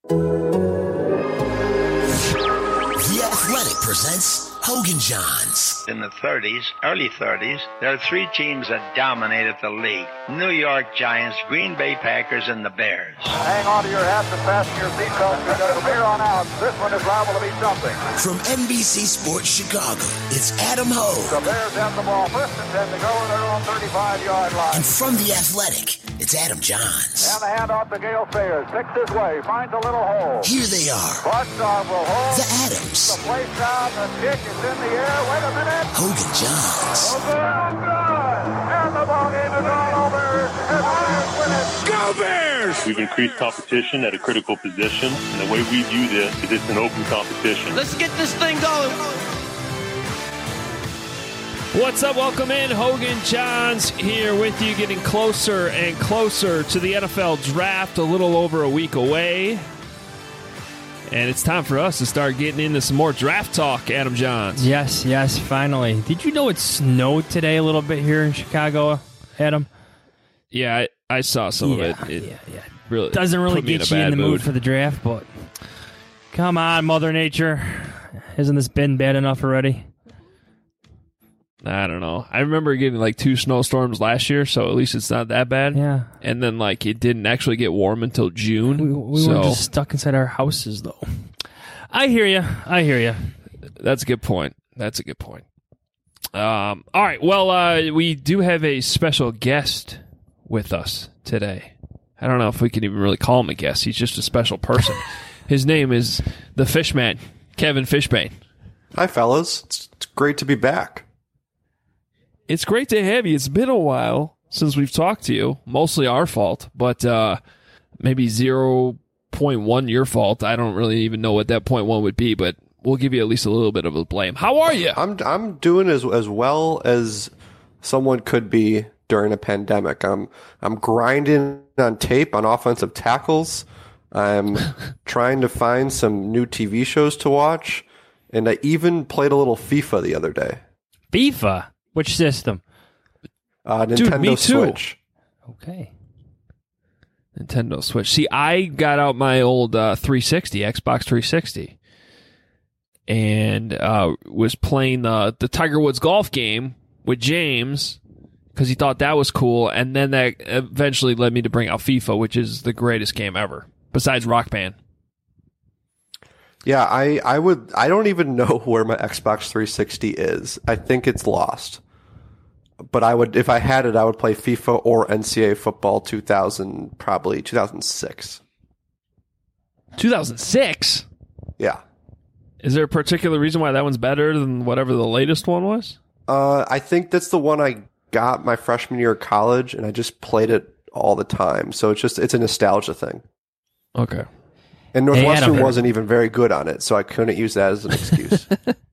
The Athletic presents Hogan Johns. In the 30s, early 30s, there are three teams that dominated the league. New York Giants, Green Bay Packers, and the Bears. Hang on to your hats and fasten your seatbelts because from here on out, this one is liable to be something. From NBC Sports Chicago, it's Adam Hogue. The Bears have the ball first and 10 to go in their own 35-yard line. And from The Athletic, it's Adam Johns. And the handoff to Gale Sayers. Six his way, finds a little hole. Here they are. Boston will hold. The Adams. The place down, the kick is in the air. Wait a minute. Hogan Johns. Good. And the ball game is all over. And Bears win it. Go Bears! We've increased competition at a critical position, and the way we view this is it's an open competition. Let's get this thing going. What's up? Welcome in. Hogan Johns here with you, getting closer and closer to the NFL draft, a little over a week away. And it's time for us to start getting into some more draft talk, Adam Johns. Yes, finally. Did you know it snowed today a little bit here in Chicago, Adam? Yeah, I saw some of it. It really doesn't really get you in the mood for the draft, but come on, Mother Nature. Hasn't this been bad enough already? I don't know. I remember getting like 2 snowstorms last year, so at least it's not that bad. Yeah. And then it didn't actually get warm until June. We were just stuck inside our houses, though. I hear you. That's a good point. All right. Well, we do have a special guest with us today. I don't know if we can even really call him a guest. He's just a special person. His name is the Fishman, Kevin Fishbain. Hi, fellas. It's great to be back. It's great to have you. It's been a while since we've talked to you. Mostly our fault, but maybe 0.1 your fault. I don't really even know what that 0.1 would be, but we'll give you at least a little bit of a blame. How are you? I'm doing as well as someone could be during a pandemic. I'm grinding on tape on offensive tackles. I'm trying to find some new TV shows to watch, and I even played a little FIFA the other day. FIFA? Which system? Nintendo Dude, me too. Switch. Okay. Nintendo Switch. See, I got out my old 360, Xbox 360, and was playing the Tiger Woods golf game with James because he thought that was cool, and then that eventually led me to bring out FIFA, which is the greatest game ever, besides Rock Band. Yeah, I don't even know where my Xbox 360 is. I think it's lost. But if I had it, I would play FIFA or NCAA football 2006. 2006? Yeah. Is there a particular reason why that one's better than whatever the latest one was? I think that's the one I got my freshman year of college, and I just played it all the time. So it's a nostalgia thing. Okay. And Northwestern wasn't even very good on it, so I couldn't use that as an excuse.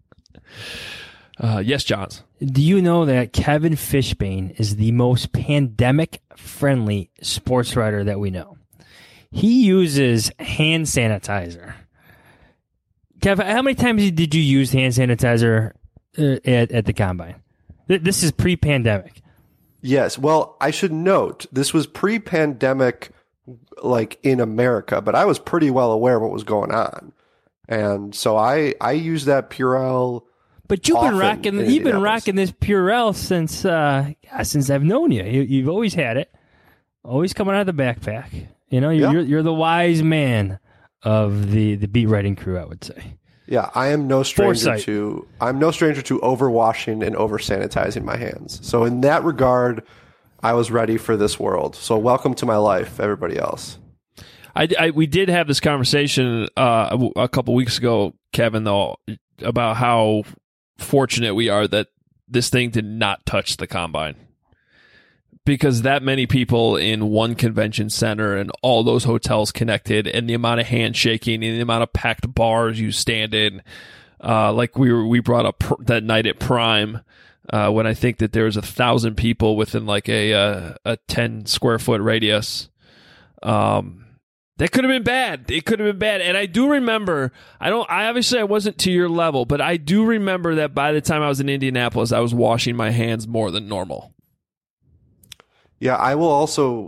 Yes, Johns. Do you know that Kevin Fishbain is the most pandemic-friendly sports writer that we know? He uses hand sanitizer. Kev, how many times did you use hand sanitizer at the Combine? This is pre-pandemic. Yes. Well, I should note, this was pre-pandemic, like in America, but I was pretty well aware of what was going on. And so I used that Purell. But you've been rocking this Purell since I've known you. You've always had it, always coming out of the backpack. You know, you're the wise man of the beat writing crew, I would say. Yeah, I'm no stranger to overwashing and over sanitizing my hands. So in that regard, I was ready for this world. So welcome to my life, everybody else. We did have this conversation a couple weeks ago, Kevin, though, about how fortunate we are that this thing did not touch the Combine. Because that many people in one convention center and all those hotels connected, and the amount of handshaking and the amount of packed bars you stand in, like we brought up that night at Prime, when I think that there was 1,000 people within like a 10 square foot radius. That could have been bad. It could have been bad. And I do remember, I wasn't to your level, but I do remember that by the time I was in Indianapolis, I was washing my hands more than normal. Yeah, I will also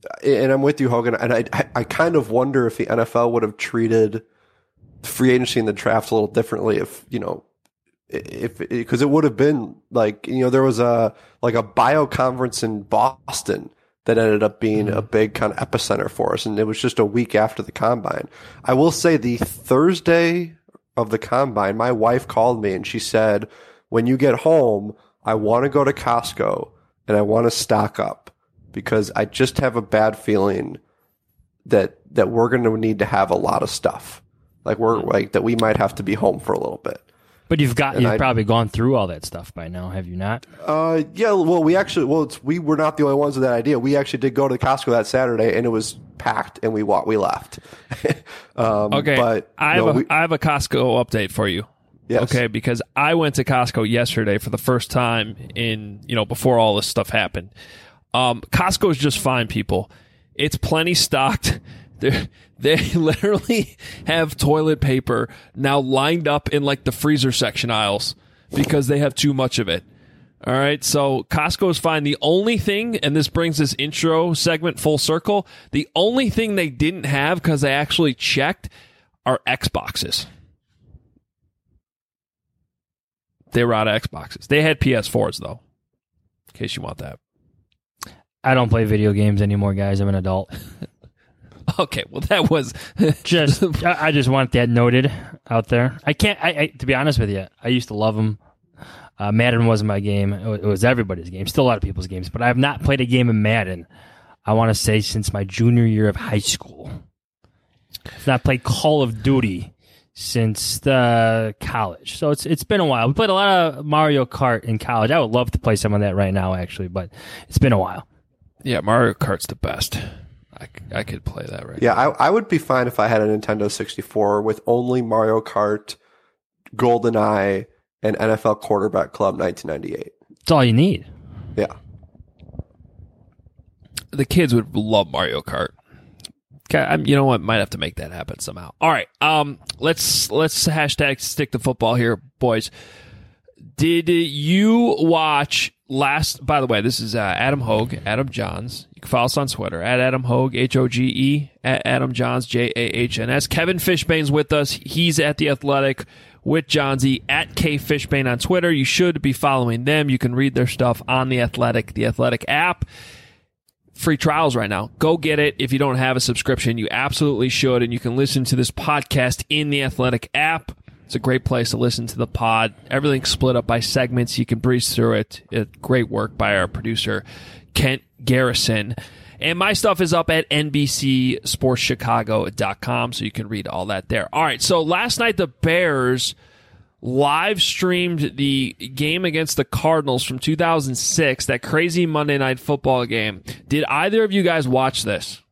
and I'm with you, Hogan, and I kind of wonder if the NFL would have treated free agency in the draft a little differently if because it would have been like, there was a bio conference in Boston that ended up being a big kind of epicenter for us, and it was just a week after the combine. I will say the Thursday of the combine, my wife called me and she said, when you get home, I want to go to Costco and I want to stock up because I just have a bad feeling that we're going to need to have a lot of stuff. That we might have to be home for a little bit. But you've probably gone through all that stuff by now, have you not? Yeah. Well, we were not the only ones with that idea. We actually did go to Costco that Saturday, and it was packed, and we left. Okay, but I have a Costco update for you. Yes. Okay, because I went to Costco yesterday for the first time before all this stuff happened. Costco is just fine, people. It's plenty stocked. They literally have toilet paper now lined up in like the freezer section aisles because they have too much of it. All right, so Costco is fine. The only thing, and this brings this intro segment full circle, the only thing they didn't have because they actually checked are Xboxes. They were out of Xboxes. They had PS4s though, in case you want that. I don't play video games anymore, guys. I'm an adult. Okay, well that was I just want that noted out there. I can't. To be honest with you, I used to love them. Madden wasn't my game. It was everybody's game. Still a lot of people's games, but I have not played a game of Madden, I want to say, since my junior year of high school. I've not played Call of Duty since the college. So it's been a while. We played a lot of Mario Kart in college. I would love to play some of that right now, actually, but it's been a while. Yeah, Mario Kart's the best. I could play that right now. Yeah, I would be fine if I had a Nintendo 64 with only Mario Kart, GoldenEye, and NFL Quarterback Club 1998. That's all you need. Yeah. The kids would love Mario Kart. You know what? Might have to make that happen somehow. All right. Let's hashtag stick to football here, boys. Did you watch by the way, this is Adam Hogue, Adam Johns. You can follow us on Twitter at Adam Hogue, Hoge, at Adam Johns, Jahns. Kevin Fishbane's with us. He's at The Athletic with Johnsy at K Fishbane on Twitter. You should be following them. You can read their stuff on The Athletic app. Free trials right now. Go get it. If you don't have a subscription, you absolutely should. And you can listen to this podcast in The Athletic app. It's a great place to listen to the pod. Everything's split up by segments. You can breeze through it. Great work by our producer, Kent Garrison. And my stuff is up at NBCSportsChicago.com, so you can read all that there. All right, so last night the Bears live streamed the game against the Cardinals from 2006, that crazy Monday Night Football game. Did either of you guys watch this?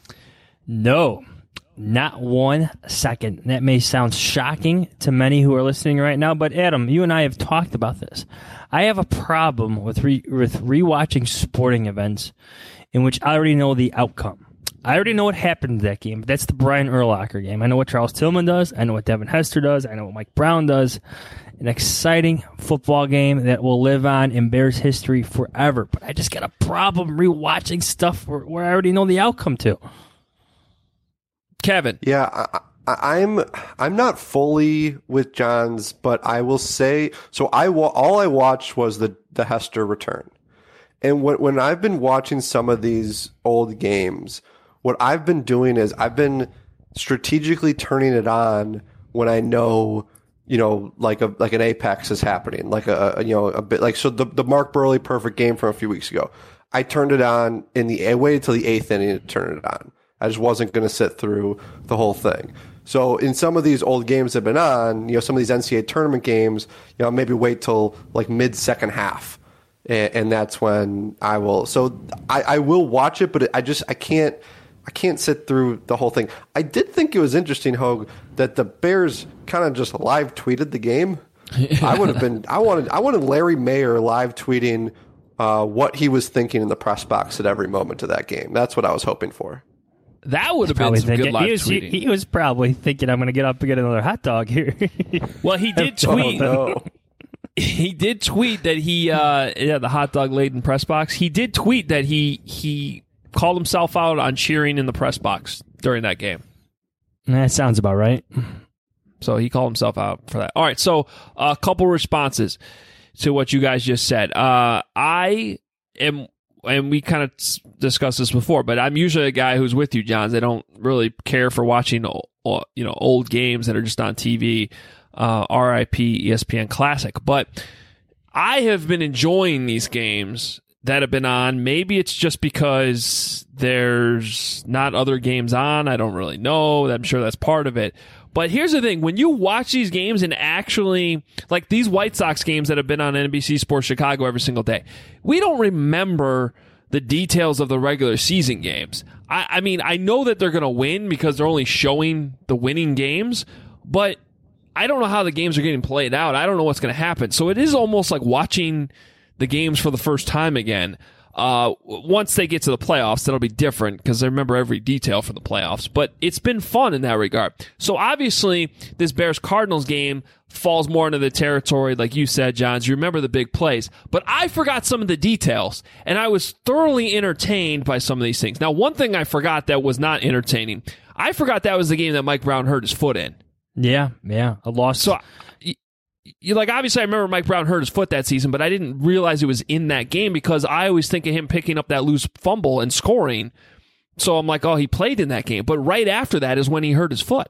No. Not 1 second. That may sound shocking to many who are listening right now, but Adam, you and I have talked about this. I have a problem with rewatching sporting events in which I already know the outcome. I already know what happened in that game. That's the Brian Urlacher game. I know what Charles Tillman does. I know what Devin Hester does. I know what Mike Brown does. An exciting football game that will live on in Bears history forever. But I just got a problem rewatching stuff where I already know the outcome to. Kevin. Yeah, I'm not fully with Johns, but I will say, so all I watched was the Hester return. And when I've been watching some of these old games, what I've been doing is I've been strategically turning it on when I know, like an apex is happening, like a bit like, so the Mark Burley perfect game from a few weeks ago. I turned it on I waited till the 8th inning to turn it on. I just wasn't going to sit through the whole thing. So in some of these old games that have been on, some of these NCAA tournament games, maybe wait till like mid-second half. And that's when I will. So I will watch it, but I can't sit through the whole thing. I did think it was interesting, Hogue, that the Bears kind of just live tweeted the game. I wanted Larry Mayer live tweeting what he was thinking in the press box at every moment of that game. That's what I was hoping for. That would have been some good live tweeting. He was probably thinking, I'm going to get up and get another hot dog here. Well, he did tweet. Oh, no. He did tweet that the hot dog laden press box. He did tweet that he called himself out on cheering in the press box during that game. That sounds about right. So he called himself out for that. All right, so a couple responses to what you guys just said. I am, and we kind of discussed this before, but I'm usually a guy who's with you, Johns. I don't really care for watching, old games that are just on TV. RIP ESPN Classic. But I have been enjoying these games that have been on. Maybe it's just because there's not other games on. I don't really know. I'm sure that's part of it. But here's the thing. When you watch these games and actually, like these White Sox games that have been on NBC Sports Chicago every single day, we don't remember the details of the regular season games. I mean, I know that they're going to win because they're only showing the winning games, but I don't know how the games are getting played out. I don't know what's going to happen. So it is almost like watching the games for the first time again. Once they get to the playoffs, that'll be different because I remember every detail from the playoffs. But it's been fun in that regard. So obviously, this Bears-Cardinals game falls more into the territory, like you said, Johns. You remember the big plays. But I forgot some of the details, and I was thoroughly entertained by some of these things. Now, one thing I forgot that was not entertaining, I forgot that was the game that Mike Brown hurt his foot in. Yeah, a loss. So, obviously I remember Mike Brown hurt his foot that season, but I didn't realize it was in that game because I always think of him picking up that loose fumble and scoring. So I'm like, oh, he played in that game. But right after that is when he hurt his foot.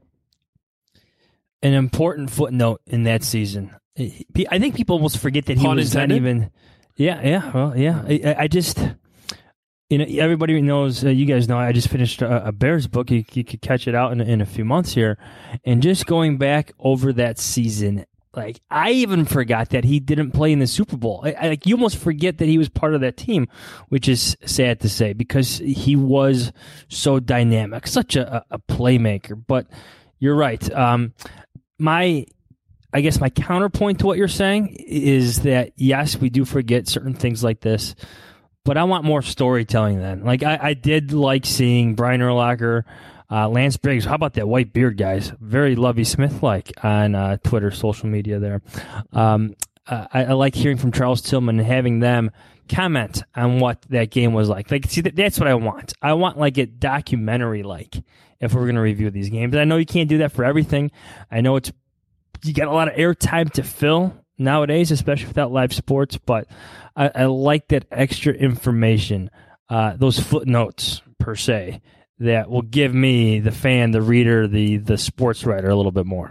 An important footnote in that season. I think people almost forget that he Pun was intended? not even... Yeah, well, yeah. I just... everybody knows, you guys know, I just finished a Bears book. You could catch it out in a few months here. And just going back over that season, like, I even forgot that he didn't play in the Super Bowl. Like, you almost forget that he was part of that team, which is sad to say because he was so dynamic, such a playmaker. But you're right. I guess my counterpoint to what you're saying is that, yes, we do forget certain things like this. But I want more storytelling then. Like, I did like seeing Brian Urlacher, Lance Briggs. How about that white beard, guys? Very Lovie Smith-like on Twitter, social media there. I like hearing from Charles Tillman and having them comment on what that game was like. Like, see, that's what I want. I want, like, a documentary-like if we're going to review these games. And I know you can't do that for everything. I know you got a lot of airtime to fill nowadays, especially without live sports, but I like that extra information, those footnotes per se, that will give me, the fan, the reader, the sports writer, a little bit more.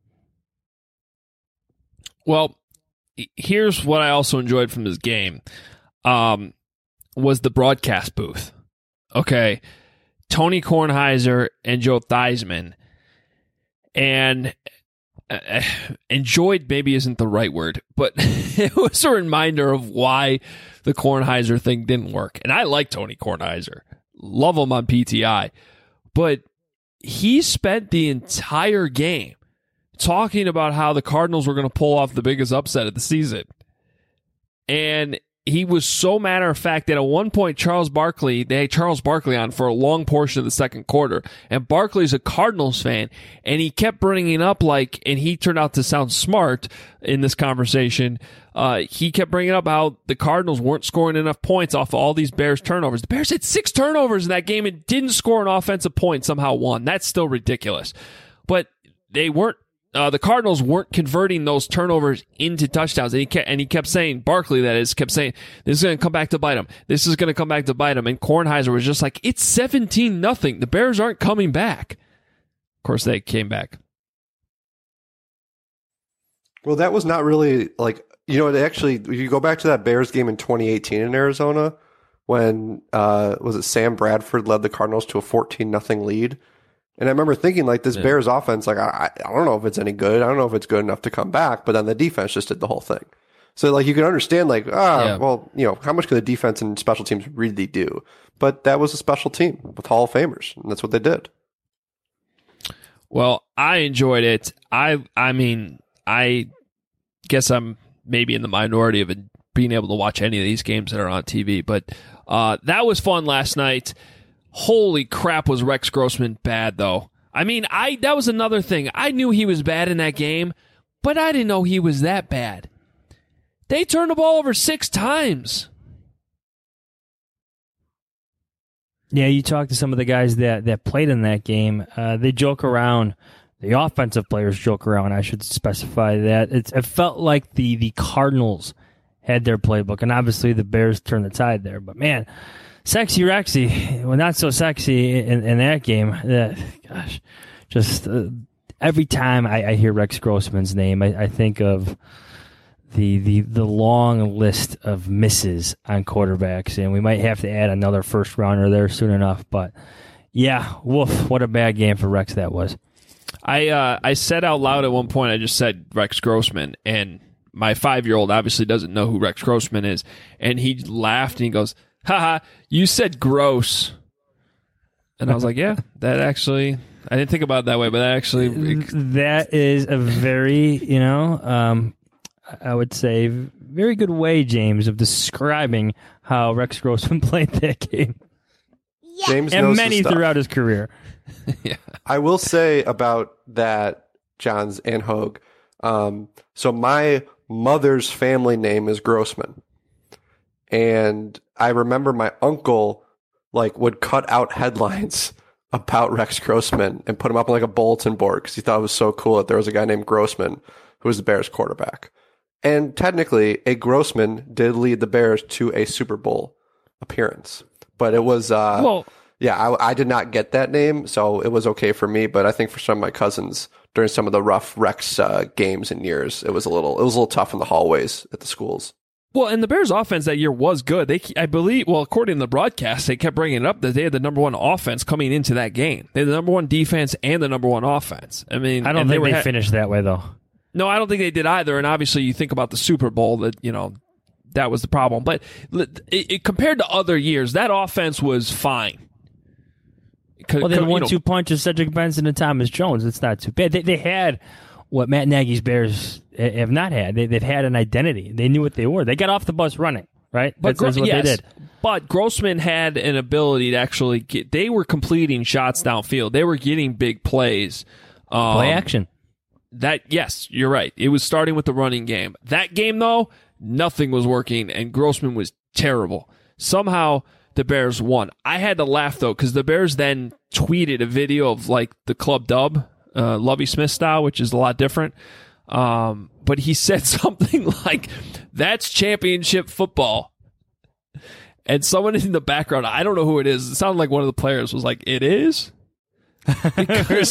Well, here's what I also enjoyed from this game, was the broadcast booth. Okay, Tony Kornheiser and Joe Theismann, and enjoyed maybe isn't the right word, but it was a reminder of why the Kornheiser thing didn't work. And I like Tony Kornheiser. Love him on PTI. But he spent the entire game talking about how the Cardinals were going to pull off the biggest upset of the season. And he was so matter of fact that at one point they had Charles Barkley on for a long portion of the second quarter. And Barkley's a Cardinals fan. And he kept bringing up and he turned out to sound smart in this conversation. He kept bringing up how the Cardinals weren't scoring enough points off of all these Bears turnovers. The Bears had 6 turnovers in that game and didn't score an offensive point, somehow won. That's still ridiculous. But they weren't. The Cardinals weren't converting those turnovers into touchdowns, and he kept saying, Barkley, that is, kept saying, this is going to come back to bite him. This is going to come back to bite him. And Kornheiser was just like, it's 17-0. The Bears aren't coming back. Of course, they came back. Well, that was not really actually, you go back to that Bears game in 2018 in Arizona when, was it Sam Bradford led the Cardinals to a 14-0 lead? And I remember thinking, this Bears offense, I don't know if it's any good. I don't know if it's good enough to come back. But then the defense just did the whole thing. So, you can understand, well, how much could the defense and special teams really do? But that was a special team with Hall of Famers, and that's what they did. Well, I enjoyed it. I mean, I guess I'm maybe in the minority of being able to watch any of these games that are on TV. But that was fun last night. Holy crap, was Rex Grossman bad, though. I mean, that was another thing. I knew he was bad in that game, but I didn't know he was that bad. They turned the ball over 6 times. Yeah, you talk to some of the guys that played in that game. They joke around. The offensive players joke around. I should specify that. It felt like the Cardinals had their playbook, and obviously the Bears turned the tide there. But man, sexy Rexy, well, not so sexy in that game. Gosh, just every time I hear Rex Grossman's name, I think of the long list of misses on quarterbacks, and we might have to add another first rounder there soon enough. But yeah, woof, what a bad game for Rex that was. I said out loud at one point, I just said Rex Grossman, and my 5-year-old obviously doesn't know who Rex Grossman is, and he laughed and he goes, haha, you said gross. And I was like, yeah, that actually, I didn't think about it that way, but that actually. That is a very, I would say, very good way, James, of describing how Rex Grossman played that game. Yeah. James and knows many throughout his career. Yeah. I will say about that, Johns and Hogue. So my mother's family name is Grossman. And I remember my uncle would cut out headlines about Rex Grossman and put them up on a bulletin board because he thought it was so cool that there was a guy named Grossman who was the Bears quarterback. And technically, a Grossman did lead the Bears to a Super Bowl appearance. But it was, I did not get that name, so it was okay for me. But I think for some of my cousins, during some of the rough Rex games and years, it was a little tough in the hallways at the schools. Well, and the Bears' offense that year was good. I believe, according to the broadcast, they kept bringing it up that they had the number one offense coming into that game. They had the number one defense and the number one offense. I mean, I don't think they finished that way, though. No, I don't think they did either. And obviously, you think about the Super Bowl, that was the problem. But compared to other years, that offense was fine. Well, then 1-2 punch of Cedric Benson and Thomas Jones. It's not too bad. They had what Matt Nagy's Bears have not had. They've had an identity. They knew what they were. They got off the bus running, right? That's what they did. But Grossman had an ability to actually they were completing shots downfield. They were getting big plays. Play action. Yes, you're right. It was starting with the running game. That game, though, nothing was working, and Grossman was terrible. Somehow, the Bears won. I had to laugh, though, because the Bears then tweeted a video of, the club dub, Lovie Smith style, which is a lot different. But he said something like, that's championship football. And someone in the background, I don't know who it is, it sounded like one of the players was like, it is? Because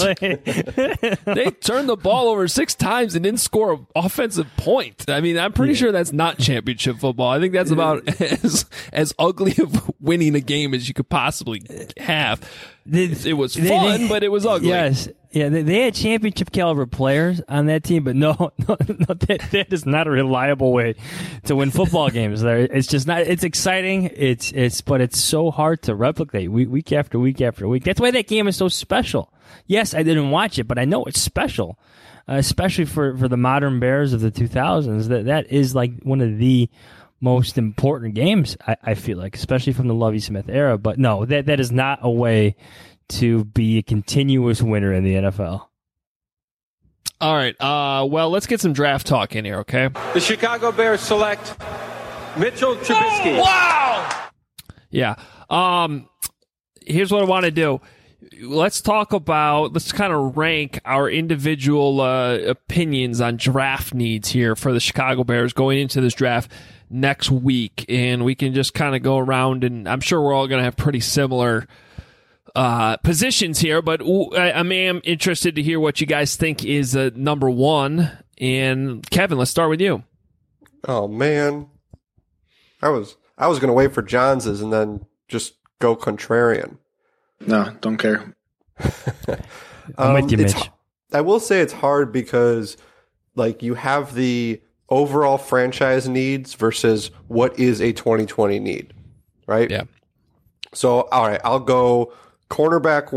they turned the ball over 6 times and didn't score an offensive point. I mean, I'm pretty sure that's not championship football. I think that's about as ugly of winning a game as you could possibly have. It was fun, but it was ugly. Yes. Yeah, they had championship caliber players on that team, but no, that is not a reliable way to win football games. It's just not. It's exciting. But it's so hard to replicate week after week after week. That's why that game is so special. Yes, I didn't watch it, but I know it's special, especially for the modern Bears of the 2000s. That is one of the most important games, I feel like, especially from the Lovie Smith era. But no, that is not a way to be a continuous winner in the NFL. All right. Well, let's get some draft talk in here, okay? The Chicago Bears select Mitchell Trubisky. Wow! Yeah. Here's what I want to do. Let's kind of rank our individual opinions on draft needs here for the Chicago Bears going into this draft next week. And we can just kind of go around, and I'm sure we're all going to have pretty similar positions here, but I am interested to hear what you guys think is number one. And Kevin, let's start with you. Oh man, I was going to wait for Johns's and then just go contrarian. No, don't care. I'm with you, Mitch. I will say it's hard because you have the overall franchise needs versus what is a 2020 need, right? Yeah. So all right, I'll go cornerback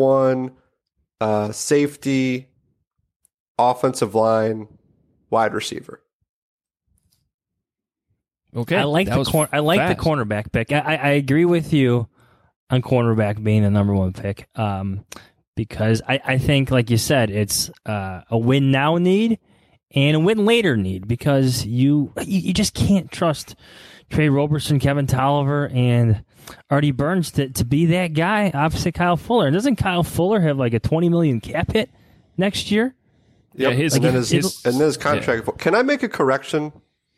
1, safety, offensive line, wide receiver. Okay, I like the cornerback pick. I agree with you on cornerback being the number one pick because I think, like you said, it's a win now need and a win later need because you just can't trust Trey Roberson, Kevin Tolliver, and Artie Burns to be that guy opposite Kyle Fuller. And doesn't Kyle Fuller have like a $20 million cap hit next year? Yep. Yeah, and then his contract. Yeah. Can I make a correction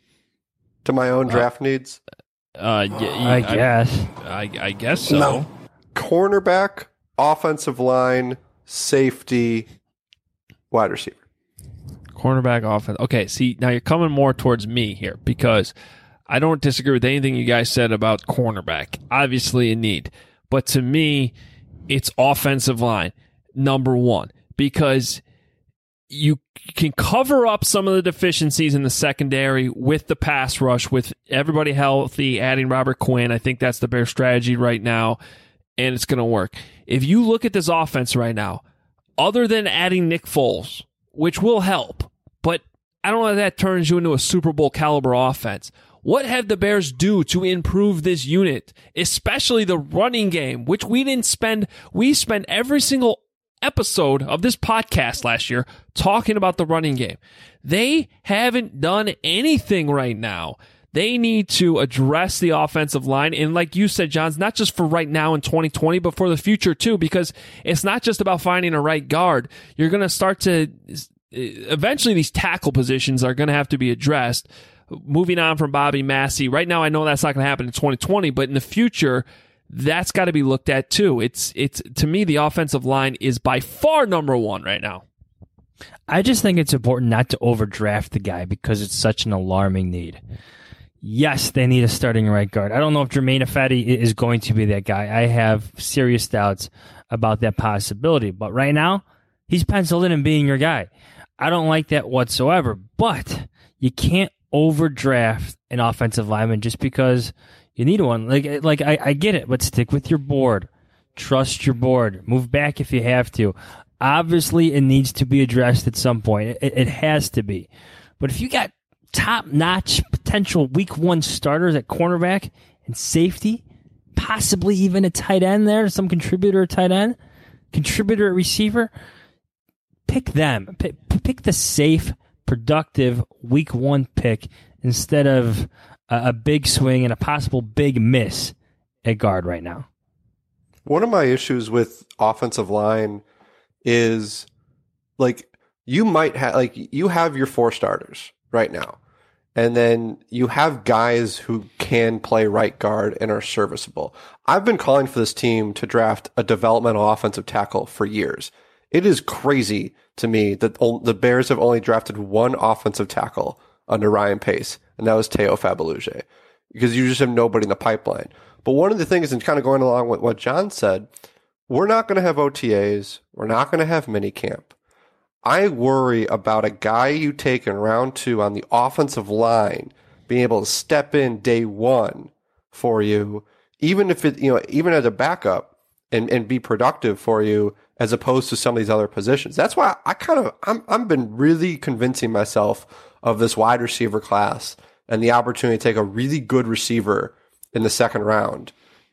to my own draft needs? I guess. I guess so. No. Cornerback, offensive line, safety, wide receiver. Cornerback, offense. Okay, see, now you're coming more towards me here because I don't disagree with anything you guys said about cornerback. Obviously a need. But to me, it's offensive line, number one, because you can cover up some of the deficiencies in the secondary with the pass rush, with everybody healthy, adding Robert Quinn. I think that's the Bears strategy right now, and it's going to work. If you look at this offense right now, other than adding Nick Foles, which will help, but I don't know if that turns you into a Super Bowl caliber offense. What have the Bears do to improve this unit, especially the running game, which we spent every single episode of this podcast last year talking about the running game. They haven't done anything right now. They need to address the offensive line. And like you said, John, it's not just for right now in 2020, but for the future too, because it's not just about finding a right guard. You're going to start to, eventually these tackle positions are going to have to be addressed. Moving on from Bobby Massey. Right now, I know that's not going to happen in 2020, but in the future, that's got to be looked at too. It's to me, the offensive line is by far number one right now. I just think it's important not to overdraft the guy because it's such an alarming need. Yes, they need a starting right guard. I don't know if Jermaine Ifedi is going to be that guy. I have serious doubts about that possibility. But right now, he's penciled in and being your guy. I don't like that whatsoever. But you can't overdraft an offensive lineman just because you need one. Like I get it, but stick with your board. Trust your board. Move back if you have to. Obviously, it needs to be addressed at some point. It has to be. But if you got top-notch potential week one starters at cornerback and safety, possibly even a tight end there, some contributor at tight end, contributor at receiver, pick them. Pick the safe, productive week one pick instead of a big swing and a possible big miss at guard right now. One of my issues with offensive line is like you have your four starters right now, and then you have guys who can play right guard and are serviceable. I've been calling for this team to draft a developmental offensive tackle for years. It is crazy to me that the Bears have only drafted one offensive tackle under Ryan Pace, and that was Teo Fabaluge, because you just have nobody in the pipeline. But one of the things, and kind of going along with what John said, we're not going to have OTAs. We're not going to have minicamp. I worry about a guy you take in round 2 on the offensive line being able to step in day one for you, even if it, even as a backup and be productive for you, as opposed to some of these other positions. That's why I've been really convincing myself of this wide receiver class and the opportunity to take a really good receiver in the second round.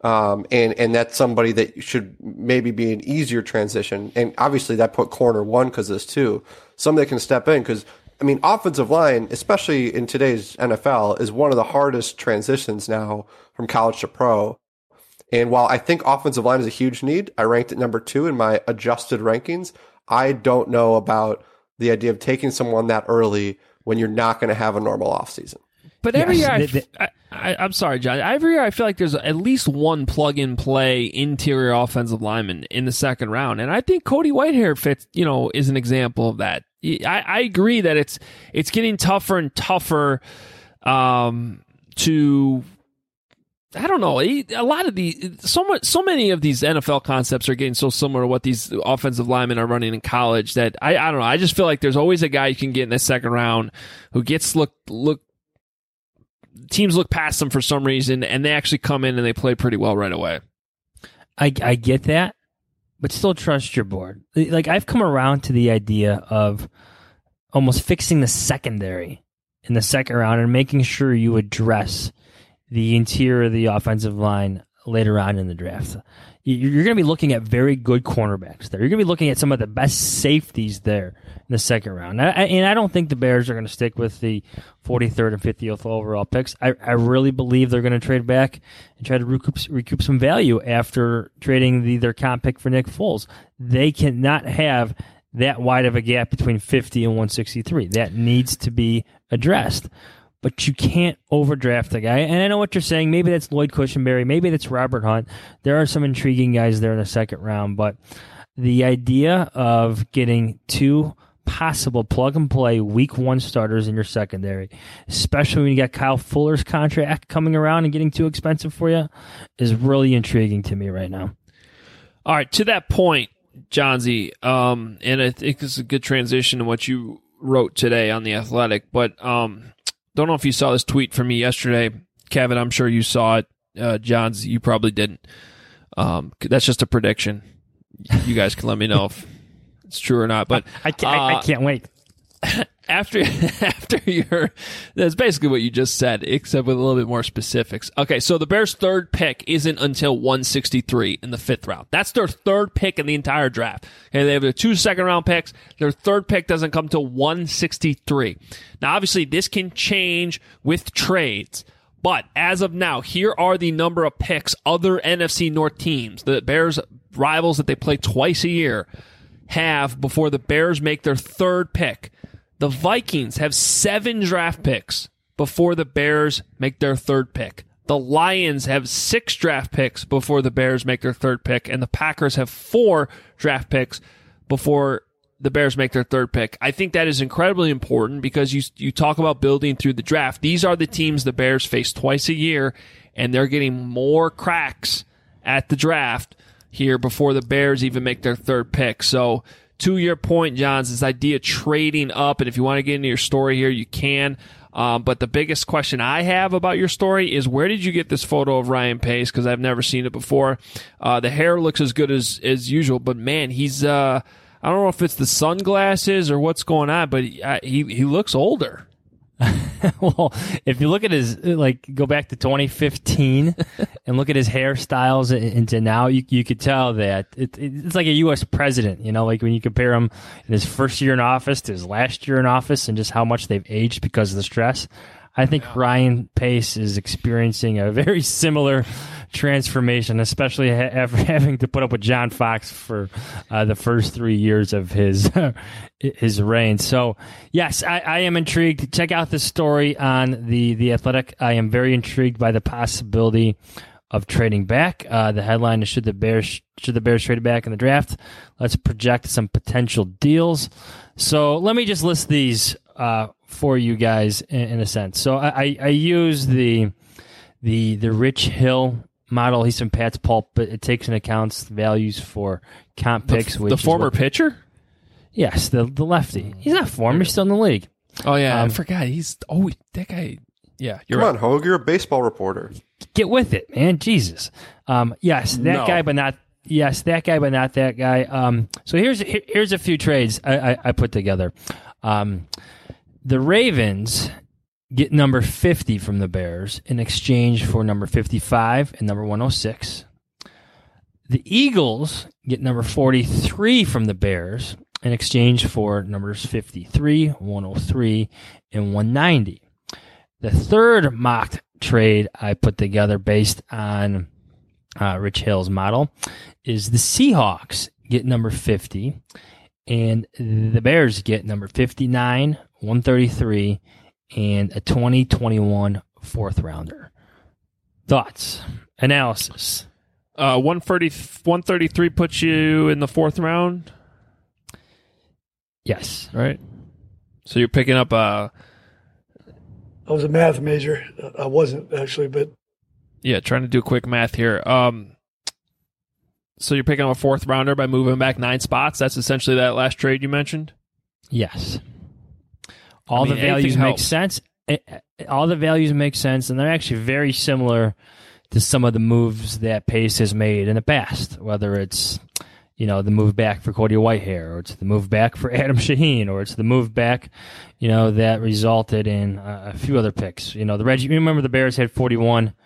And that's somebody that should maybe be an easier transition. And obviously that put corner one because of this too. Somebody that can step in because, offensive line, especially in today's NFL, is one of the hardest transitions now from college to pro. And while I think offensive line is a huge need, I ranked it number 2 in my adjusted rankings. I don't know about the idea of taking someone that early when you're not going to have a normal offseason. But every year, I'm sorry, John. Every year I feel like there's at least one plug-and-play interior offensive lineman in the second round. And I think Cody Whitehair fits, is an example of that. I agree that it's getting tougher and tougher to... I don't know. A lot of so many of these NFL concepts are getting so similar to what these offensive linemen are running in college that I don't know. I just feel like there's always a guy you can get in the second round who gets teams look past them for some reason, and they actually come in and they play pretty well right away. I get that, but still trust your board. Like, I've come around to the idea of almost fixing the secondary in the second round and making sure you address the interior of the offensive line later on in the draft. you're going to be looking at very good cornerbacks there. You're going to be looking at some of the best safeties there in the second round. And I don't think the Bears are going to stick with the 43rd and 50th overall picks. I really believe they're going to trade back and try to recoup some value after trading their comp pick for Nick Foles. They cannot have that wide of a gap between 50 and 163. That needs to be addressed. But you can't overdraft a guy. And I know what you're saying. Maybe that's Lloyd Cushenberry. Maybe that's Robert Hunt. There are some intriguing guys there in the second round. But the idea of getting two possible plug-and-play week one starters in your secondary, especially when you got Kyle Fuller's contract coming around and getting too expensive for you, is really intriguing to me right now. All right, to that point, Johnsy, and I think this is a good transition to what you wrote today on The Athletic, but don't know if you saw this tweet from me yesterday. Kevin, I'm sure you saw it. Johns, you probably didn't. That's just a prediction. You guys can let me know if it's true or not. But I can't wait. After that's basically what you just said, except with a little bit more specifics. Okay, so the Bears' third pick isn't until 163 in the fifth round. That's their third pick in the entire draft. Okay, they have their 2 second-round picks. Their third pick doesn't come till 163. Now, obviously, this can change with trades. But as of now, here are the number of picks other NFC North teams, the Bears' rivals that they play twice a year, have before the Bears make their third pick. The Vikings have 7 draft picks before the Bears make their third pick. The Lions have 6 draft picks before the Bears make their third pick. And the Packers have 4 draft picks before the Bears make their third pick. I think that is incredibly important because you talk about building through the draft. These are the teams the Bears face twice a year, and they're getting more cracks at the draft here before the Bears even make their third pick. So, to your point, Johns, this idea of trading up, and if you want to get into your story here, you can. But the biggest question I have about your story is, where did you get this photo of Ryan Pace? Because I've never seen it before. The hair looks as good as usual, but man, he's I don't know if it's the sunglasses or what's going on, but he looks older. Well, if you look at his, go back to 2015 and look at his hairstyles into now, you could tell that it's like a U.S. president, like when you compare him in his first year in office to his last year in office and just how much they've aged because of the stress. I think Ryan Pace is experiencing a very similar transformation, especially after having to put up with John Fox for the first 3 years of his reign. So, yes, I am intrigued. Check out this story on the Athletic. I am very intrigued by the possibility of trading back. The headline is should the Bears trade back in the draft? Let's project some potential deals. So let me just list these for you guys in a sense. So I use the Rich Hill model. He's from Pat's Pulp, but it takes into account values for comp picks. The former pitcher? Yes, the lefty. He's not former. He's still in the league. Oh, yeah. I forgot. That guy. Yeah, Come on, Hogue. You're a baseball reporter. Get with it, man. Jesus. Yes, that guy, but not. Yes, that guy, but not that guy. So here's a few trades I put together. The Ravens get number 50 from the Bears in exchange for number 55 and number 106. The Eagles get number 43 from the Bears in exchange for numbers 53, 103, and 190. The third mock trade I put together based on Rich Hill's model is the Seahawks get number 50 and the Bears get number 59, 133, and a 2021 fourth rounder. Thoughts? Analysis? 133 puts you in the fourth round? Yes. Right. So you're picking up I was a math major. I wasn't, actually, but... Yeah, trying to do quick math here. So you're picking up a fourth rounder by moving back 9 spots? That's essentially that last trade you mentioned? Yes. All the values make sense. All the values make sense, and they're actually very similar to some of the moves that Pace has made in the past, whether it's the move back for Cody Whitehair, or it's the move back for Adam Shaheen, or it's the move back that resulted in a few other picks. You remember the Bears had 41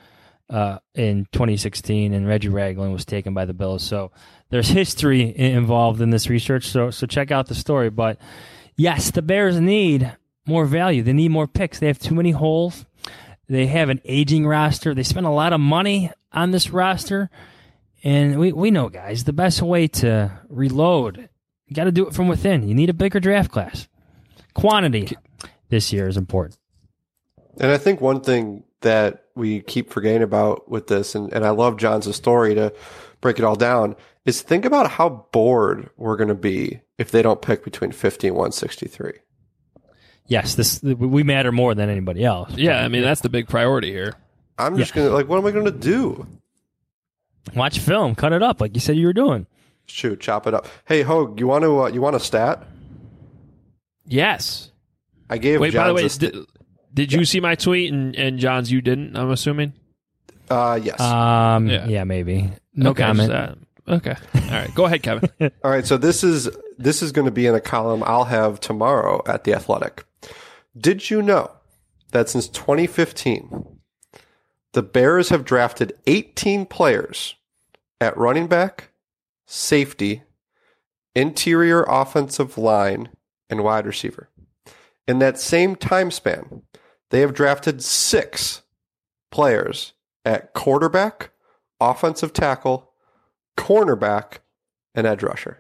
in 2016, and Reggie Ragland was taken by the Bills. So there's history involved in this research. So check out the story. But yes, the Bears need more value. They need more picks. They have too many holes. They have an aging roster. They spend a lot of money on this roster. And we know, guys, the best way to reload, you got to do it from within. You need a bigger draft class. Quantity this year is important. And I think one thing that we keep forgetting about with this, and I love John's story to break it all down, is think about how bored we're going to be if they don't pick between 50 and 163. Yes, we matter more than anybody else. Yeah, I mean, that's the big priority here. I'm just going to, what am I going to do? Watch film, cut it up like you said you were doing. Shoot, chop it up. Hey, Hogue, you want a stat? Yes. I gave Wait, John's by the way, did you see my tweet and John's you didn't, I'm assuming? Yes. Yeah, maybe. No comment. Okay. All right. Go ahead, Kevin. All right, so this is going to be in a column I'll have tomorrow at The Athletic. Did you know that since 2015, the Bears have drafted 18 players at running back, safety, interior offensive line, and wide receiver? In that same time span, they have drafted 6 players at quarterback, offensive tackle, cornerback, and edge rusher.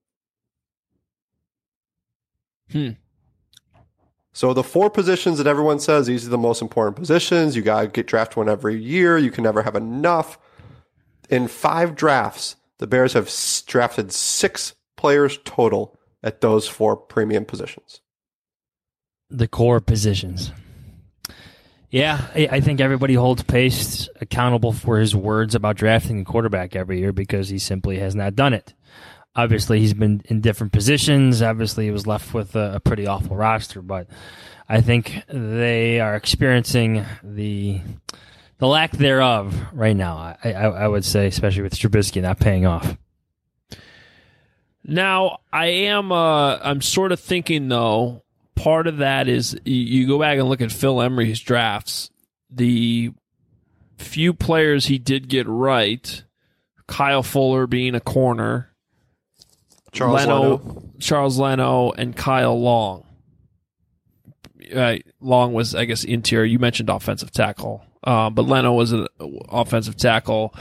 So the 4 positions that everyone says these are the most important positions, you got to get drafted one every year, you can never have enough. In 5 drafts, the Bears have drafted 6 players total at those 4 premium positions. The core positions. Yeah, I think everybody holds Pace accountable for his words about drafting a quarterback every year because he simply has not done it. Obviously, he's been in different positions. Obviously, he was left with a pretty awful roster, but I think they are experiencing the lack thereof right now, I would say, especially with Trubisky not paying off. Now, I'm sort of thinking, though, part of that is you go back and look at Phil Emery's drafts. The few players he did get right, Kyle Fuller being a corner, Charles Leno, and Kyle Long. Long was, I guess, interior. You mentioned offensive tackle, but Leno was an offensive tackle.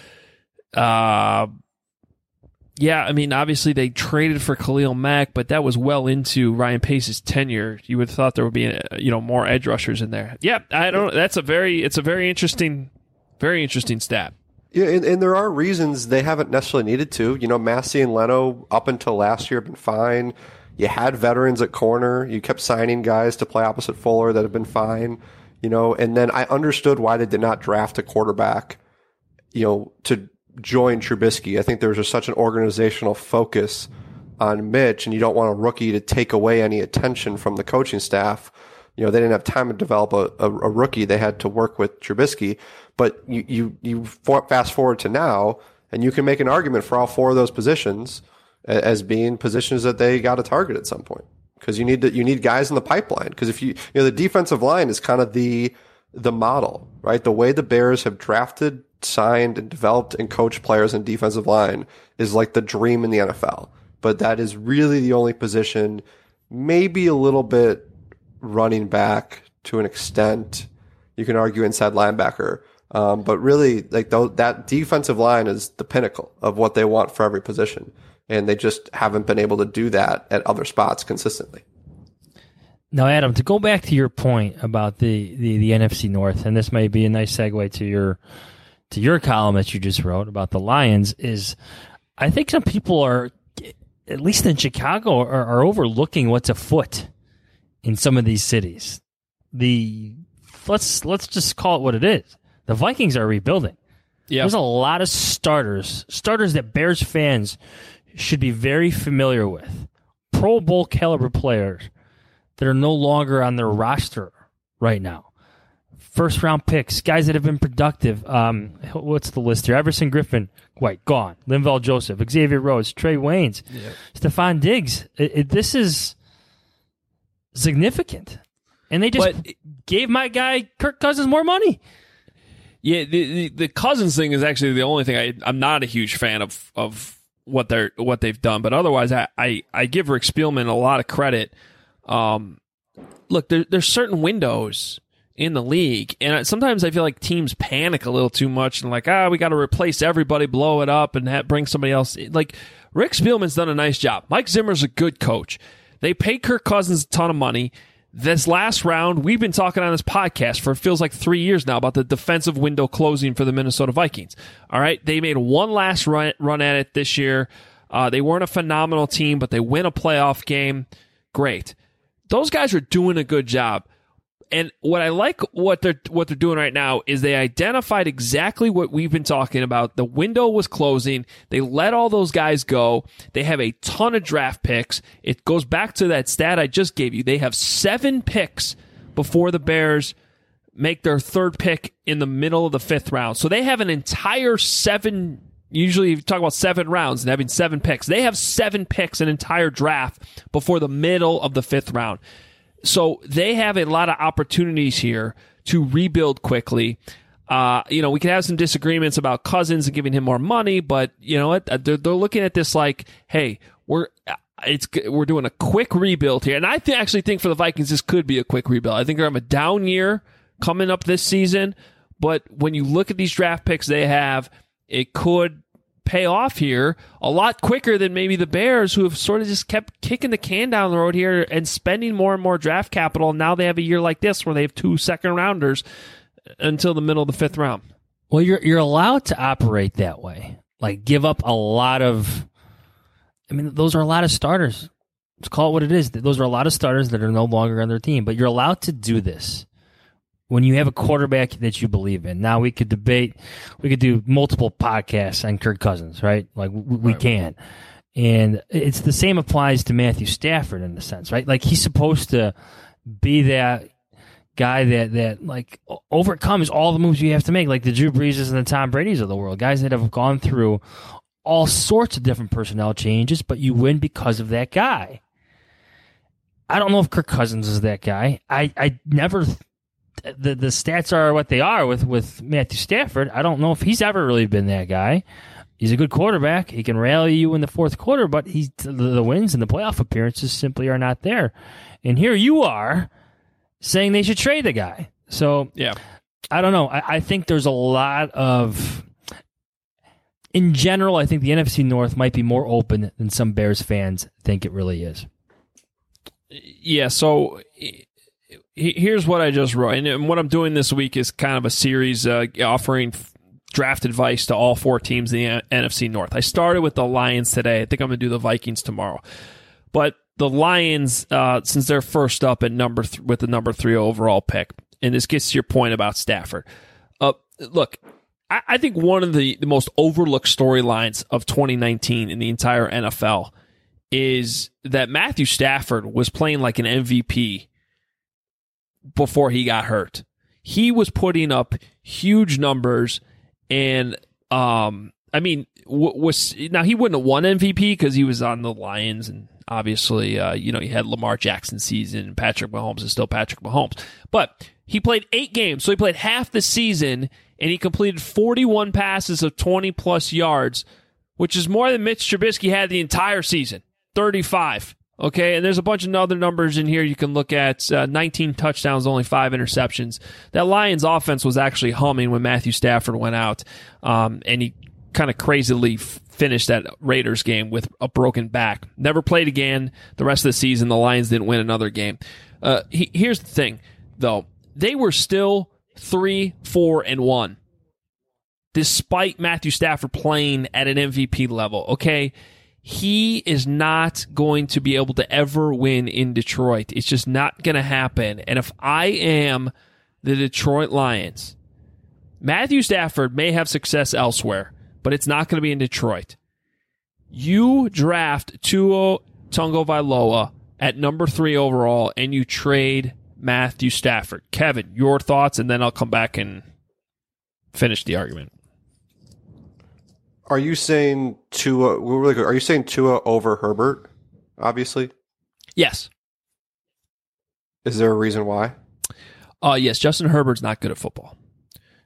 Yeah, I mean, obviously they traded for Khalil Mack, but that was well into Ryan Pace's tenure. You would have thought there would be, more edge rushers in there. Yeah, it's a very interesting stat. Yeah, and there are reasons they haven't necessarily needed to. Massey and Leno up until last year have been fine. You had veterans at corner. You kept signing guys to play opposite Fuller that have been fine. And then I understood why they did not draft a quarterback, to join Trubisky. I think there was just such an organizational focus on Mitch, and you don't want a rookie to take away any attention from the coaching staff. They didn't have time to develop a rookie. They had to work with Trubisky. But you fast forward to now, and you can make an argument for all 4 of those positions as being positions that they got to target at some point, because you need guys in the pipeline. Because if the defensive line is kind of the model, right? The way the Bears have drafted, signed, and developed and coached players in defensive line is like the dream in the NFL. But that is really the only position, maybe a little bit running back to an extent. You can argue inside linebacker. But really, that defensive line is the pinnacle of what they want for every position. And they just haven't been able to do that at other spots consistently. Now, Adam, to go back to your point about the NFC North, and this may be a nice segue to your column that you just wrote about the Lions, is I think some people are, at least in Chicago, are overlooking what's afoot in some of these cities. Let's just call it what it is. The Vikings are rebuilding. Yep. There's a lot of starters that Bears fans should be very familiar with. Pro Bowl caliber players that are no longer on their roster right now. First round picks, guys that have been productive. What's the list here? Everson Griffin, White, gone. Linval Joseph, Xavier Rhodes, Trey Waynes, Stephon Diggs. This is significant. And they just gave my guy Kirk Cousins more money. Yeah, the Cousins thing is actually the only thing I'm not a huge fan of what they've done. But otherwise, I give Rick Spielman a lot of credit. Look, there's certain windows in the league, and sometimes I feel like teams panic a little too much and like, we got to replace everybody, blow it up, and bring somebody else. Like, Rick Spielman's done a nice job. Mike Zimmer's a good coach. They pay Kirk Cousins a ton of money. This last round, we've been talking on this podcast for it feels like 3 years now about the defensive window closing for the Minnesota Vikings. All right, they made one last run at it this year. They weren't a phenomenal team, but they win a playoff game. Great. Those guys are doing a good job. And what I like what they're doing right now is they identified exactly what we've been talking about. The window was closing. They let all those guys go. They have a ton of draft picks. It goes back to that stat I just gave you. They have 7 picks before the Bears make their 3rd pick in the middle of the 5th round. So they have an entire 7. Usually you talk about 7 rounds and having 7 picks. They have 7 picks, an entire draft before the middle of the 5th round. So they have a lot of opportunities here to rebuild quickly. We can have some disagreements about Cousins and giving him more money, but you know what? They're looking at this like, hey, we're doing a quick rebuild here. And I actually think for the Vikings, this could be a quick rebuild. I think they're having a down year coming up this season, but when you look at these draft picks they have, it could pay off here a lot quicker than maybe the Bears, who have sort of just kept kicking the can down the road here and spending more and more draft capital. Now they have a year like this where they have 2 second-rounders until the middle of the 5th round. Well, you're allowed to operate that way. Like, give up a lot of... I mean, those are a lot of starters. Let's call it what it is. Those are a lot of starters that are no longer on their team. But you're allowed to do this when you have a quarterback that you believe in. Now, we could do multiple podcasts on Kirk Cousins, right? Like, we can. And it's the same applies to Matthew Stafford in a sense, right? Like, he's supposed to be that guy that like overcomes all the moves you have to make, like the Drew Breeses and the Tom Brady's of the world, guys that have gone through all sorts of different personnel changes, but you win because of that guy. I don't know if Kirk Cousins is that guy. I never... The stats are what they are with Matthew Stafford. I don't know if he's ever really been that guy. He's a good quarterback. He can rally you in the 4th quarter, but the wins and the playoff appearances simply are not there. And here you are saying they should trade the guy. So, yeah, I don't know. I think there's a lot of... In general, I think the NFC North might be more open than some Bears fans think it really is. Yeah, so... Here's what I just wrote, and what I'm doing this week is kind of a series offering draft advice to all 4 teams in the NFC North. I started with the Lions today. I think I'm going to do the Vikings tomorrow. But the Lions, since they're first up at with the number 3 overall pick, and this gets to your point about Stafford. Look, I think one of the most overlooked storylines of 2019 in the entire NFL is that Matthew Stafford was playing like an MVP before he got hurt. He was putting up huge numbers, and now he wouldn't have won MVP because he was on the Lions, and obviously he had Lamar Jackson season, and Patrick Mahomes is still Patrick Mahomes. But he played 8 games, so he played half the season, and he completed 41 passes of 20-plus yards, which is more than Mitch Trubisky had the entire season, 35. Okay, and there's a bunch of other numbers in here you can look at. 19 touchdowns, only 5 interceptions. That Lions offense was actually humming when Matthew Stafford went out, and he kind of crazily finished that Raiders game with a broken back. Never played again the rest of the season. The Lions didn't win another game. Here's the thing, though. They were still 3-4-1, despite Matthew Stafford playing at an MVP level, okay? He is not going to be able to ever win in Detroit. It's just not going to happen. And if I am the Detroit Lions, Matthew Stafford may have success elsewhere, but it's not going to be in Detroit. You draft Tua Tagovailoa at number 3 overall, and you trade Matthew Stafford. Kevin, your thoughts, and then I'll come back and finish the argument. Are you saying Tua? Are you saying Tua over Herbert? Obviously. Yes. Is there a reason why? Yes, Justin Herbert's not good at football.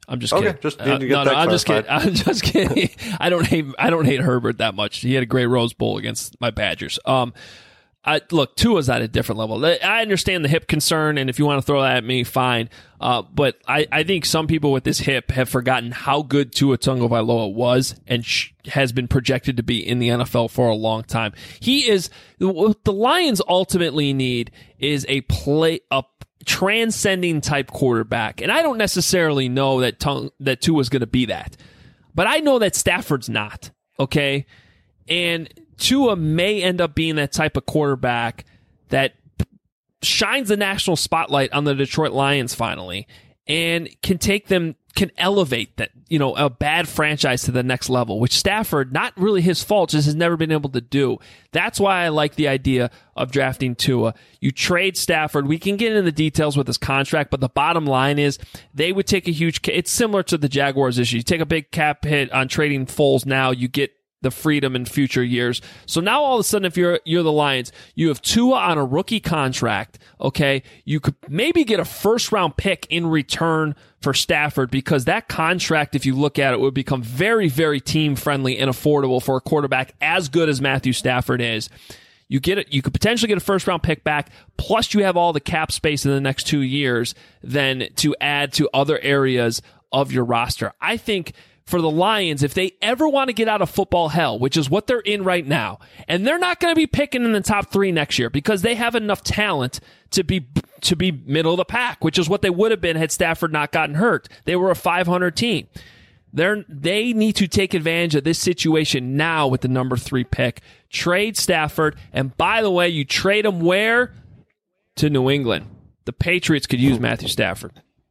I'm just okay, kidding. Just need to get that I'm just kidding. clarified. I'm just kidding. I don't hate Herbert that much. He had a great Rose Bowl against my Badgers. Look, Tua's at a different level. I understand the hip concern, and if you want to throw that at me, fine. But I think some people with this hip have forgotten how good Tua Tagovailoa was and has been projected to be in the NFL for a long time. He is what the Lions ultimately need is a transcending type quarterback, and I don't necessarily know that Tua's going to be that, but I know that Stafford's not. Okay, and Tua may end up being that type of quarterback that shines the national spotlight on the Detroit Lions finally and can elevate that, a bad franchise to the next level, which Stafford, not really his fault, just has never been able to do. That's why I like the idea of drafting Tua. You trade Stafford. We can get into the details with his contract, but the bottom line is they would take a huge, it's similar to the Jaguars issue. You take a big cap hit on trading Foles now, you get the freedom in future years. So now all of a sudden, if you're the Lions, you have Tua on a rookie contract. Okay, you could maybe get a first round pick in return for Stafford, because that contract, if you look at it, would become very, very team friendly and affordable for a quarterback as good as Matthew Stafford is. You could potentially get a first round pick back, plus you have all the cap space in the next 2 years then to add to other areas of your roster. I think for the Lions, if they ever want to get out of football hell, which is what they're in right now, and they're not going to be picking in the top 3 next year because they have enough talent to be middle of the pack, which is what they would have been had Stafford not gotten hurt. They were a 500 team. They need to take advantage of this situation now with the number 3 pick. Trade Stafford, and by the way, you trade him where? To New England. The Patriots could use Matthew Stafford.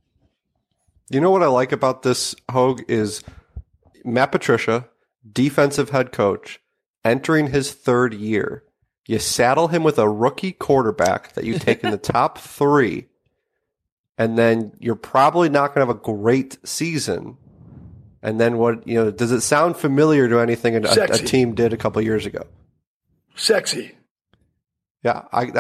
You know what I like about this, Hogue, is Matt Patricia, defensive head coach, entering his 3rd year. You saddle him with a rookie quarterback that you take in the top 3, and then you're probably not going to have a great season. And then does it sound familiar to anything a team did a couple years ago? Sexy. Yeah,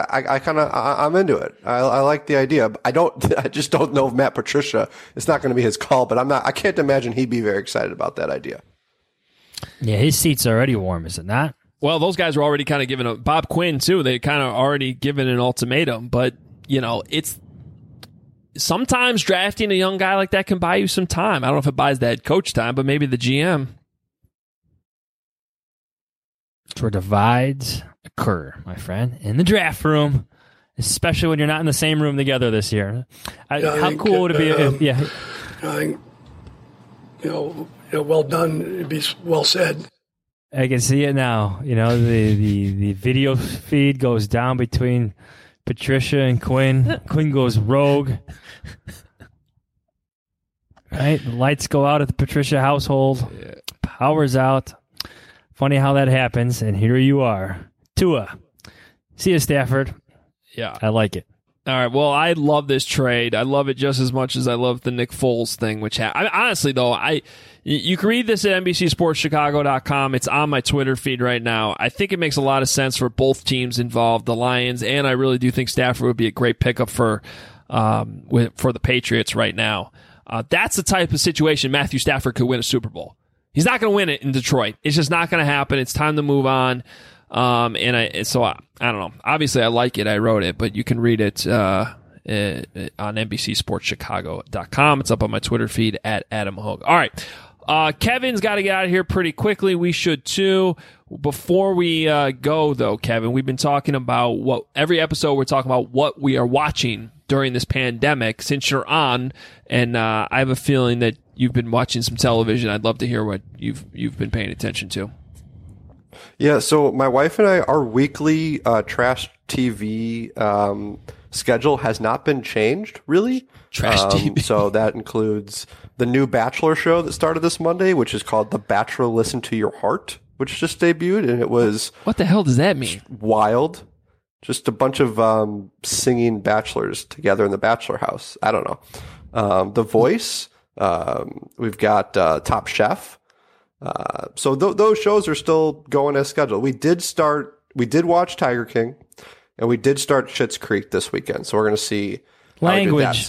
I'm into it. I like the idea. I just don't know if Matt Patricia, it's not going to be his call, but I can't imagine he'd be very excited about that idea. Yeah, his seat's already warm, is it not? Well, those guys were already kind of giving Bob Quinn too. They kind of already given an ultimatum, but it's sometimes drafting a young guy like that can buy you some time. I don't know if it buys the head coach time, but maybe the GM. It's where divides occur, my friend, in the draft room, especially when you're not in the same room together this year. How cool would it be if, I think, well done, it'd be well said. I can see it now. The video feed goes down between Patricia and Quinn. Quinn goes rogue. Right? The lights go out at the Patricia household. Yeah. Power's out. Funny how that happens, and here you are. Tua. See you, Stafford. Yeah. I like it. All right. Well, I love this trade. I love it just as much as I love the Nick Foles thing, which honestly, though, you can read this at NBCSportsChicago.com. It's on my Twitter feed right now. I think it makes a lot of sense for both teams involved, the Lions, and I really do think Stafford would be a great pickup for the Patriots right now. That's the type of situation Matthew Stafford could win a Super Bowl. He's not going to win it in Detroit. It's just not going to happen. It's time to move on. I don't know. Obviously, I like it. I wrote it, but you can read it on NBCSportsChicago.com. It's up on my Twitter feed at Adam Hogue. All right. Kevin's got to get out of here pretty quickly. We should too. Before we go, though, Kevin, we've been talking about every episode we're talking about what we are watching during this pandemic. Since you're on, and I have a feeling that you've been watching some television. I'd love to hear what you've been paying attention to. Yeah, so my wife and I, our weekly trash TV schedule has not been changed, really. Trash TV. So that includes the new Bachelor show that started this Monday, which is called The Bachelor Listen to Your Heart, which just debuted, and it was... What the hell does that mean? Wild. Just a bunch of singing bachelors together in the bachelor house. I don't know. The Voice. We've got Top Chef. So those shows are still going as scheduled. We did watch Tiger King, and we did start Schitt's Creek this weekend. So we're going to see Language.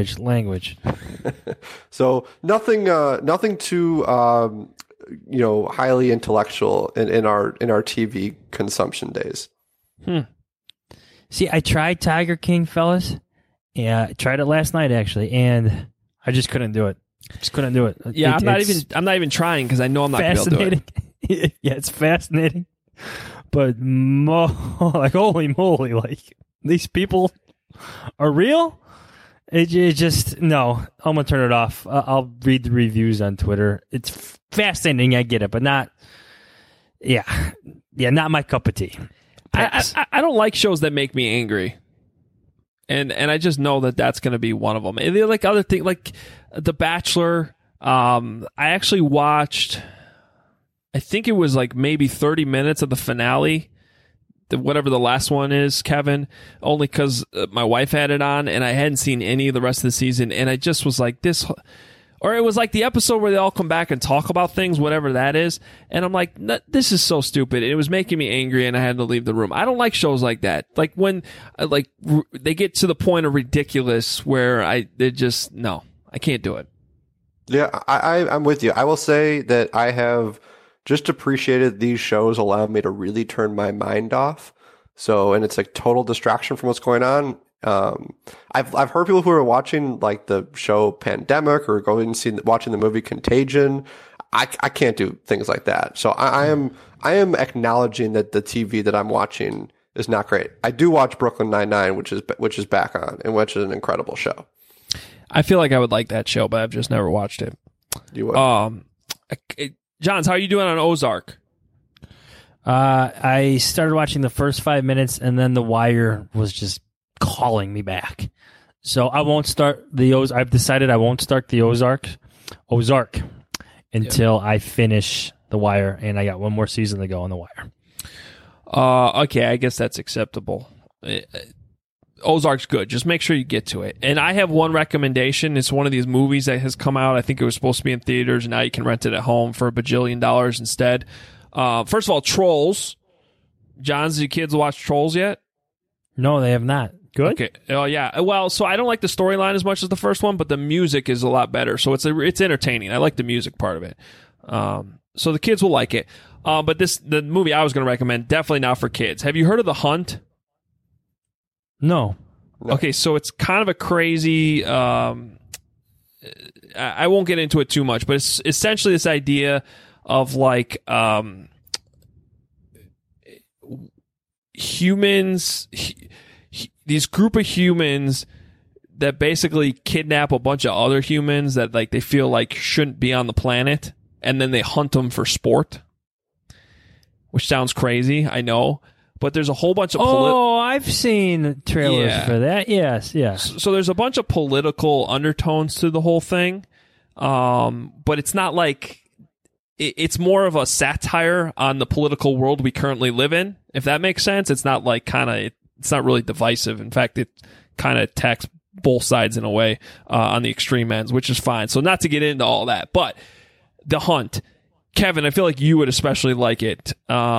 So nothing too highly intellectual in our TV consumption days. See, I tried Tiger King, fellas. Yeah, I tried it last night actually, and I just couldn't do it. Yeah, I'm not even trying because I know I'm not going to be able to do it. Yeah, it's fascinating, but like holy moly, like these people are real. It just no. I'm gonna turn it off. I'll read the reviews on Twitter. It's fascinating. I get it, but not. Yeah, not my cup of tea. I don't like shows that make me angry, and I just know that that's going to be one of them. And they're like other things, like The Bachelor. I actually watched. I think it was like maybe 30 minutes of the finale, whatever the last one is, Kevin, only because my wife had it on and I hadn't seen any of the rest of the season. And I just was like this, or it was like the episode where they all come back and talk about things, whatever that is. And I'm like, this is so stupid. It was making me angry and I had to leave the room. I don't like shows like that. Like when they get to the point of ridiculous where I can't do it. Yeah, I'm with you. I will say that I have just appreciated these shows allow me to really turn my mind off. So, and it's like total distraction from what's going on. I've heard people who are watching like the show Pandemic or going and watching the movie Contagion. I can't do things like that. So I am acknowledging that the TV that I'm watching is not great. I do watch Brooklyn Nine-Nine, which is back on, and which is an incredible show. I feel like I would like that show, but I've just never watched it. You would. Johns, how are you doing on Ozark? I started watching the first 5 minutes, and then The Wire was just calling me back. So I won't start the Ozark. I've decided I won't start the Ozark until I finish The Wire, and I got one more season to go on The Wire. Okay, I guess that's acceptable. Ozark's good. Just make sure you get to it. And I have one recommendation. It's one of these movies that has come out. I think it was supposed to be in theaters, and now you can rent it at home for $1 bajillion instead. First of all, Trolls. John, do your kids watch Trolls yet? No, they have not. Good? Okay. Oh, yeah. Well, so I don't like the storyline as much as the first one, but the music is a lot better. So it's entertaining. I like the music part of it. So the kids will like it. But the movie I was going to recommend, definitely not for kids. Have you heard of The Hunt? No. Okay, so it's kind of a crazy... I won't get into it too much, but it's essentially this idea of like humans... these group of humans that basically kidnap a bunch of other humans that like they feel like shouldn't be on the planet, and then they hunt them for sport. Which sounds crazy, I know. But there's a whole bunch of... I've seen trailers for that. Yes. So there's a bunch of political undertones to the whole thing. But it's not like... It's more of a satire on the political world we currently live in, if that makes sense. It's not like it's not really divisive. In fact, it kind of attacks both sides in a way on the extreme ends, which is fine. So not to get into all that. But The Hunt... Kevin, I feel like you would especially like it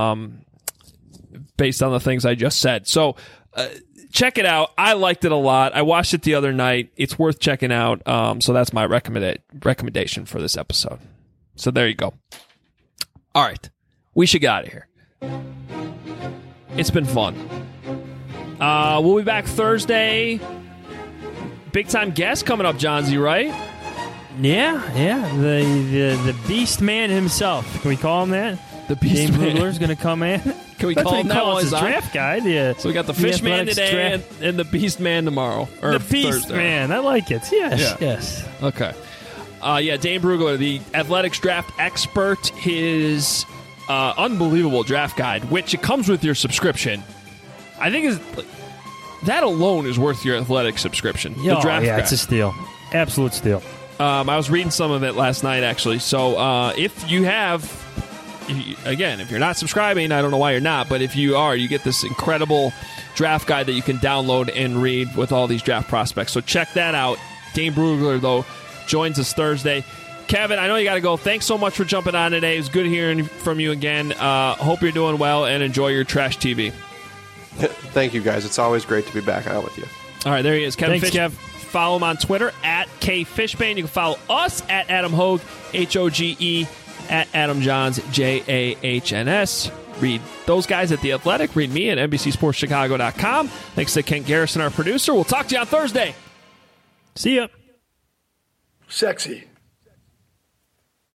based on the things I just said. So check it out. I liked it a lot. I watched it the other night. It's worth checking out. So that's my recommendation for this episode. So there you go. All right. We should get out of here. It's been fun. We'll be back Thursday. Big time guest coming up, Johnsy, right? Yeah. The Beast Man himself. Can we call him that? The Beast Man. James Brugler's going to come in. Can we call him that while he's draft guide? Yeah. So we got the Fish Man today and the Beast Man tomorrow. Or the Beast Thursday. Man. I like it. Yes. Okay. Dane Brugler, the athletics draft expert, his unbelievable draft guide, which it comes with your subscription. I think that alone is worth your athletic subscriction. The draft guide. It's a steal. Absolute steal. I was reading some of it last night, actually. So if you have, if you're not subscribing, I don't know why you're not, but if you are, you get this incredible draft guide that you can download and read with all these draft prospects. So check that out. Dane Brugler, though, joins us Thursday. Kevin, I know you got to go. Thanks so much for jumping on today. It was good hearing from you again. Hope you're doing well and enjoy your trash TV. Thank you, guys. It's always great to be back out with you. All right, there he is. Kevin Thanks, Fish. Kev. Follow him on Twitter at KFishbane. You can follow us at Adam Hoge, Hoge, at Adam Johns, Jahns. Read those guys at The Athletic. Read me at NBCSportsChicago.com. Thanks to Ken Garrison, our producer. We'll talk to you on Thursday. See ya. Sexy.